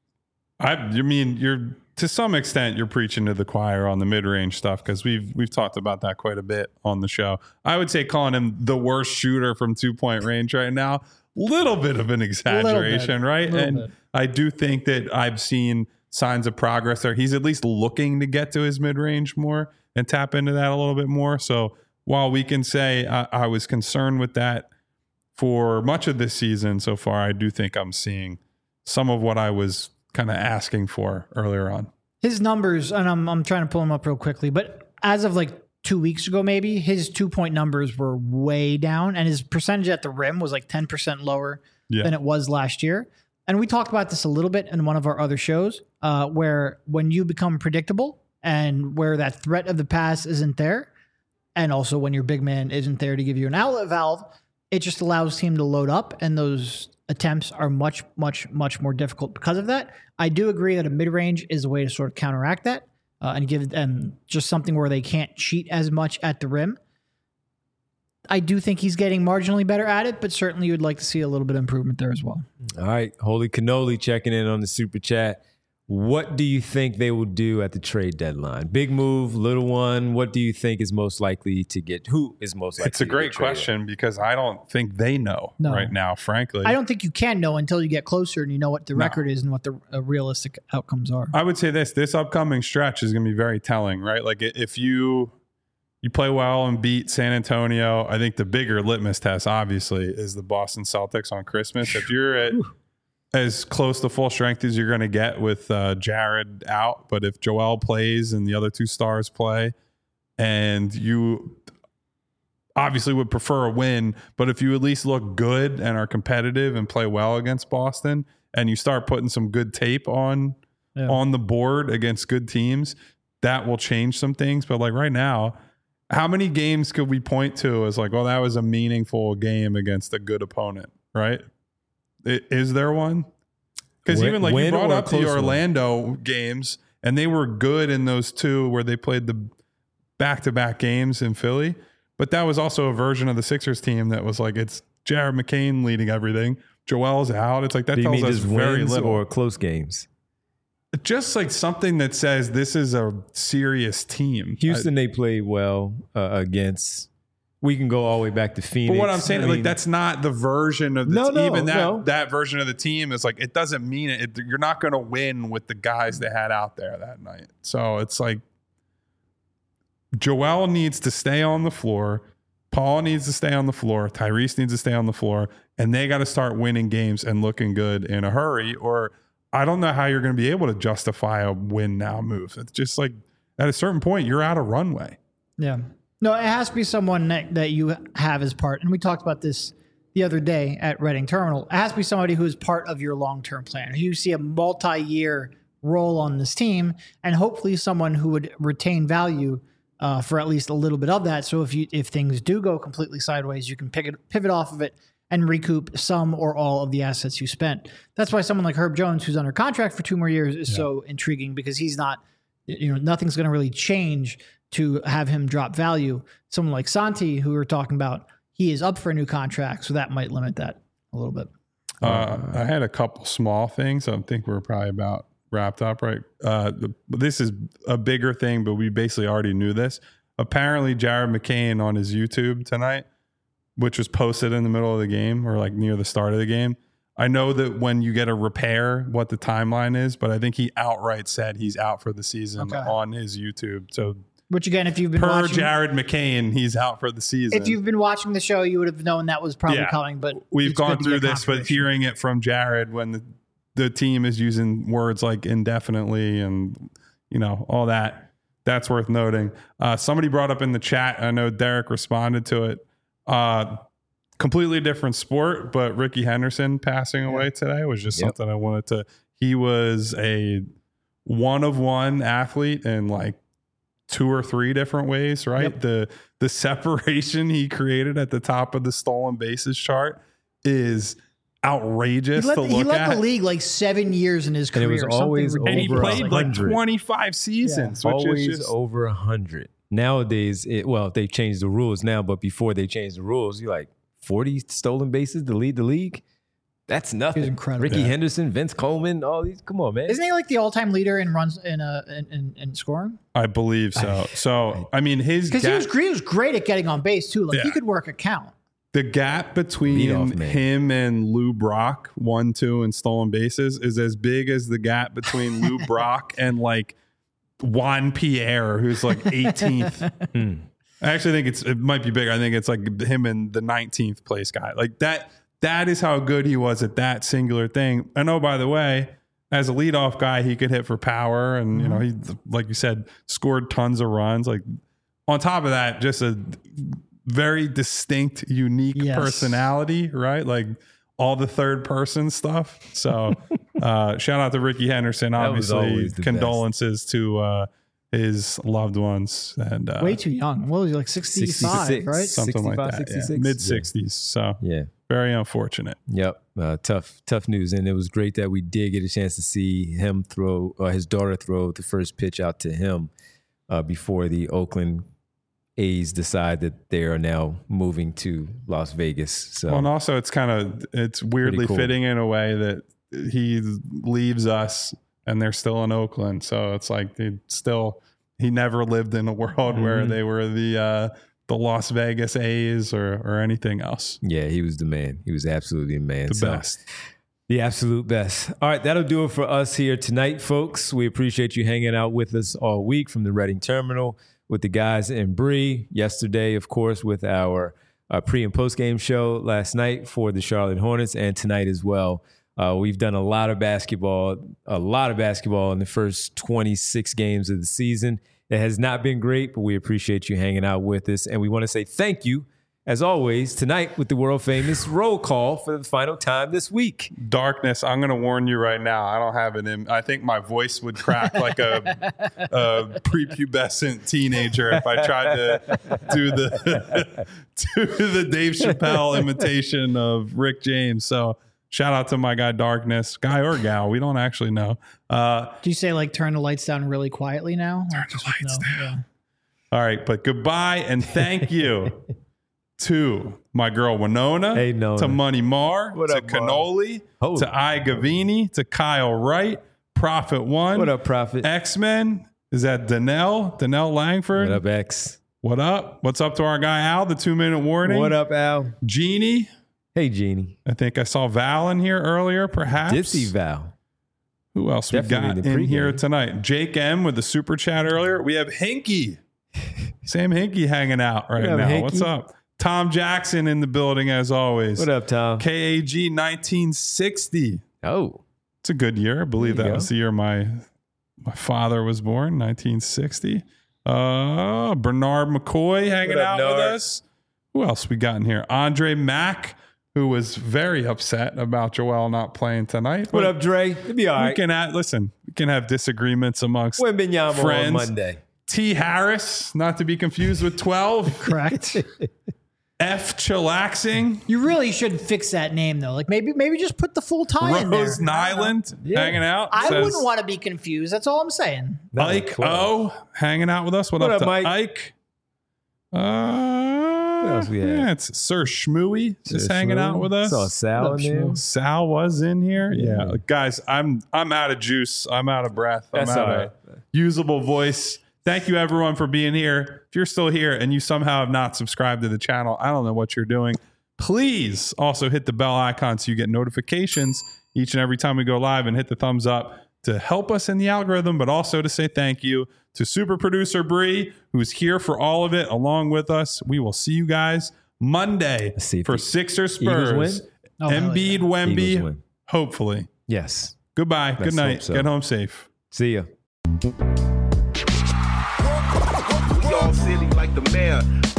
you're to some extent you're preaching to the choir on the mid-range stuff because we've talked about that quite a bit on the show. I would say calling him the worst shooter from 2-point range right now, little bit of an exaggeration, right? And I do think that I've seen signs of progress there. He's at least looking to get to his mid-range more and tap into that a little bit more. So while we can say I was concerned with that for much of this season so far, I do think I'm seeing some of what I was kind of asking for earlier on.
His numbers, and I'm trying to pull them up real quickly, but as of like 2 weeks ago, maybe his 2-point numbers were way down and his percentage at the rim was like 10% lower than it was last year. And we talked about this a little bit in one of our other shows, where when you become predictable and where that threat of the pass isn't there, and also when your big man isn't there to give you an outlet valve, it just allows him to load up, and those attempts are much, much, much more difficult because of that. I do agree that a mid-range is a way to sort of counteract that and give them just something where they can't cheat as much at the rim. I do think he's getting marginally better at it, but certainly you would like to see a little bit of improvement there as well.
All right. Holy Cannoli checking in on the super chat. What do you think they will do at the trade deadline? Big move, little one. What do you think is most likely to get? Who is most likely?
It's a great question because I don't think they know right now, frankly.
I don't think you can know until you get closer and you know what the record is and what the realistic outcomes are.
I would say this upcoming stretch is going to be very telling, right? Like if you play well and beat San Antonio, I think the bigger litmus test, obviously, is the Boston Celtics on Christmas. If you're at as close to full strength as you're going to get with Jared out, but if Joel plays and the other 2 stars play, and you obviously would prefer a win, but if you at least look good and are competitive and play well against Boston, and you start putting some good tape on the board against good teams, that will change some things. But like right now, how many games could we point to as like, well, that was a meaningful game against a good opponent, right? Is there one? Because even like you brought up the Orlando games, and they were good in those 2 where they played the back-to-back games in Philly. But that was also a version of the Sixers team that was like, it's Jared McCain leading everything. Joel's out. It's like that tells us very little.
Or close games?
Just like something that says this is a serious team.
Houston, they played well against. We can go all the way back to Phoenix.
But what I'm saying, like that's not the version of the team. That version of the team is like, it doesn't mean it. You're not going to win with the guys they had out there that night. So it's like Joel needs to stay on the floor. Paul needs to stay on the floor. Tyrese needs to stay on the floor. And they got to start winning games and looking good in a hurry, or I don't know how you're going to be able to justify a win now move. It's just like at a certain point, you're out of runway.
Yeah. No, it has to be someone that you have as part. And we talked about this the other day at Reading Terminal. It has to be somebody who is part of your long-term plan. You see a multi-year role on this team, and hopefully someone who would retain value for at least a little bit of that. So if things do go completely sideways, you can pivot off of it and recoup some or all of the assets you spent. That's why someone like Herb Jones, who's under contract for 2 more years, is so intriguing, because he's not, nothing's going to really change to have him drop value. Someone like Santi, who we're talking about, he is up for a new contract, so that might limit that a little bit.
I had a couple small things. I think we're probably about wrapped up, right? This is a bigger thing, but we basically already knew this. Apparently, Jared McCain on his YouTube tonight, which was posted in the middle of the game or like near the start of the game. I know that when you get a repair, what the timeline is, but I think he outright said he's out for the season on his YouTube. So,
which again, if you've been watching
Jared McCain, he's out for the season.
If you've been watching the show, you would have known that was probably coming. But
we've gone through this, but hearing it from Jared when the team is using words like indefinitely and all that's worth noting. Somebody brought up in the chat, I know Derek responded to it, completely different sport, but Ricky Henderson passing away today was just something I wanted to. He was a one-of-one athlete in like 2 or 3 different ways, right? The separation he created at the top of the stolen bases chart is outrageous to look at.
He led the league like 7 years in his career.
And it was always over,
and he played like
100.
25 seasons, which
always
is just
over 100. Nowadays, they've changed the rules now, but before they changed the rules, you're like 40 stolen bases to lead the league. That's nothing.
He's incredible.
Ricky Henderson, Vince Coleman, all these. Come on, man.
Isn't he like the all-time leader in runs in scoring?
I believe so. So I mean,
because he was great at getting on base too. Like he could work a count.
The gap between him and Lou Brock, 1-2 in stolen bases, is as big as the gap between Lou Brock and like Juan Pierre, who's like 18th. I actually think it might be bigger. I think it's like him and the 19th place guy. Like that is how good he was at that singular thing. And oh, by the way, as a leadoff guy, he could hit for power. And, he, like you said, scored tons of runs. Like on top of that, just a very distinct, unique personality, right? Like all the third person stuff. So shout out to Ricky Henderson. Obviously, condolences to his loved ones. And
way too young. What was he, like 65, right?
Something like that.
66?
Mid 60s. So very unfortunate.
Yep. Tough news. And it was great that we did get a chance to see him throw, his daughter throw the first pitch out to him before the Oakland A's decide that they are now moving to Las Vegas. So,
and also it's weirdly fitting in a way that he leaves us and they're still in Oakland. So it's like he never lived in a world where they were the Las Vegas A's or anything else.
Yeah, he was the man. He was absolutely the man.
The best.
The absolute best. All right, that'll do it for us here tonight, folks. We appreciate you hanging out with us all week from the Reading Terminal with the guys in Bree. Yesterday, of course, with our pre- and post-game show last night for the Charlotte Hornets, and tonight as well. We've done a lot of basketball in the first 26 games of the season. It has not been great, but we appreciate you hanging out with us. And we want to say thank you, as always, tonight with the world-famous roll call for the final time this week.
Darkness, I'm going to warn you right now. I don't have it in. I think my voice would crack like a prepubescent teenager if I tried to do the Dave Chappelle imitation of Rick James. So shout out to my guy Darkness, guy or gal. We don't actually know.
Do you say like turn the lights down really quietly now?
Turn the lights down. Yeah. All right, but goodbye and thank you to my girl Winona, to Money Mar, to Cannoli, to I Gavini, to Kyle Wright, Prophet One.
What up, Prophet?
X-Men. Is that Danelle Langford?
What up, X?
What up? What's up to our guy Al, the 2-minute warning?
What up, Al?
Jeannie.
Hey, Jeannie.
I think I saw Val in here earlier, perhaps.
Did see Val.
Who else Definitely we got in here tonight? Jake M with the super chat earlier. We have Hinky. Sam Hinky hanging out right now. Hinky? What's up? Tom Jackson in the building as always.
What up, Tom?
KAG 1960.
Oh.
It's a good year. I believe that was the year my father was born, 1960. Bernard McCoy hanging
What up,
out with
Nard?
us. Who else we got in here? Andre Mack, who was very upset about Joel not playing tonight.
What
But
up, Dre? It'll be all
we
right.
can we can have disagreements amongst
Wembanyama
friends.
on Monday.
T. Harris, not to be confused with 12.
Correct.
F. Chillaxing.
You really should fix that name though. Like maybe just put the full tie in there.
Rose Nyland hanging out.
I
says,
wouldn't want to be confused. That's all I'm saying.
Ike O hanging out with us. What
What
up
up,
to
Mike?
Ike?
else we have?
Yeah, it's Sir Schmooey just hanging out with us.
Saw Sal in there.
Sal was in here. Yeah. Guys, I'm out of juice. I'm out of breath. I'm
That's
out
all
of
right.
usable voice. Thank you everyone for being here. If you're still here and you somehow have not subscribed to the channel, I don't know what you're doing. Please also hit the bell icon so you get notifications each and every time we go live, and hit the thumbs up to help us in the algorithm, but also to say thank you to super producer Bree, who's here for all of it along with us. We will see you guys Monday
Let's see if
for
the
Sixers
Eagles
Spurs.
win?
Oh, hell
Embiid,
yeah.
Eagles
Wemby,
win.
hopefully.
Yes.
Goodbye.
Let's
Good night.
hope so.
Get home safe.
See ya.
We all silly like the mayor.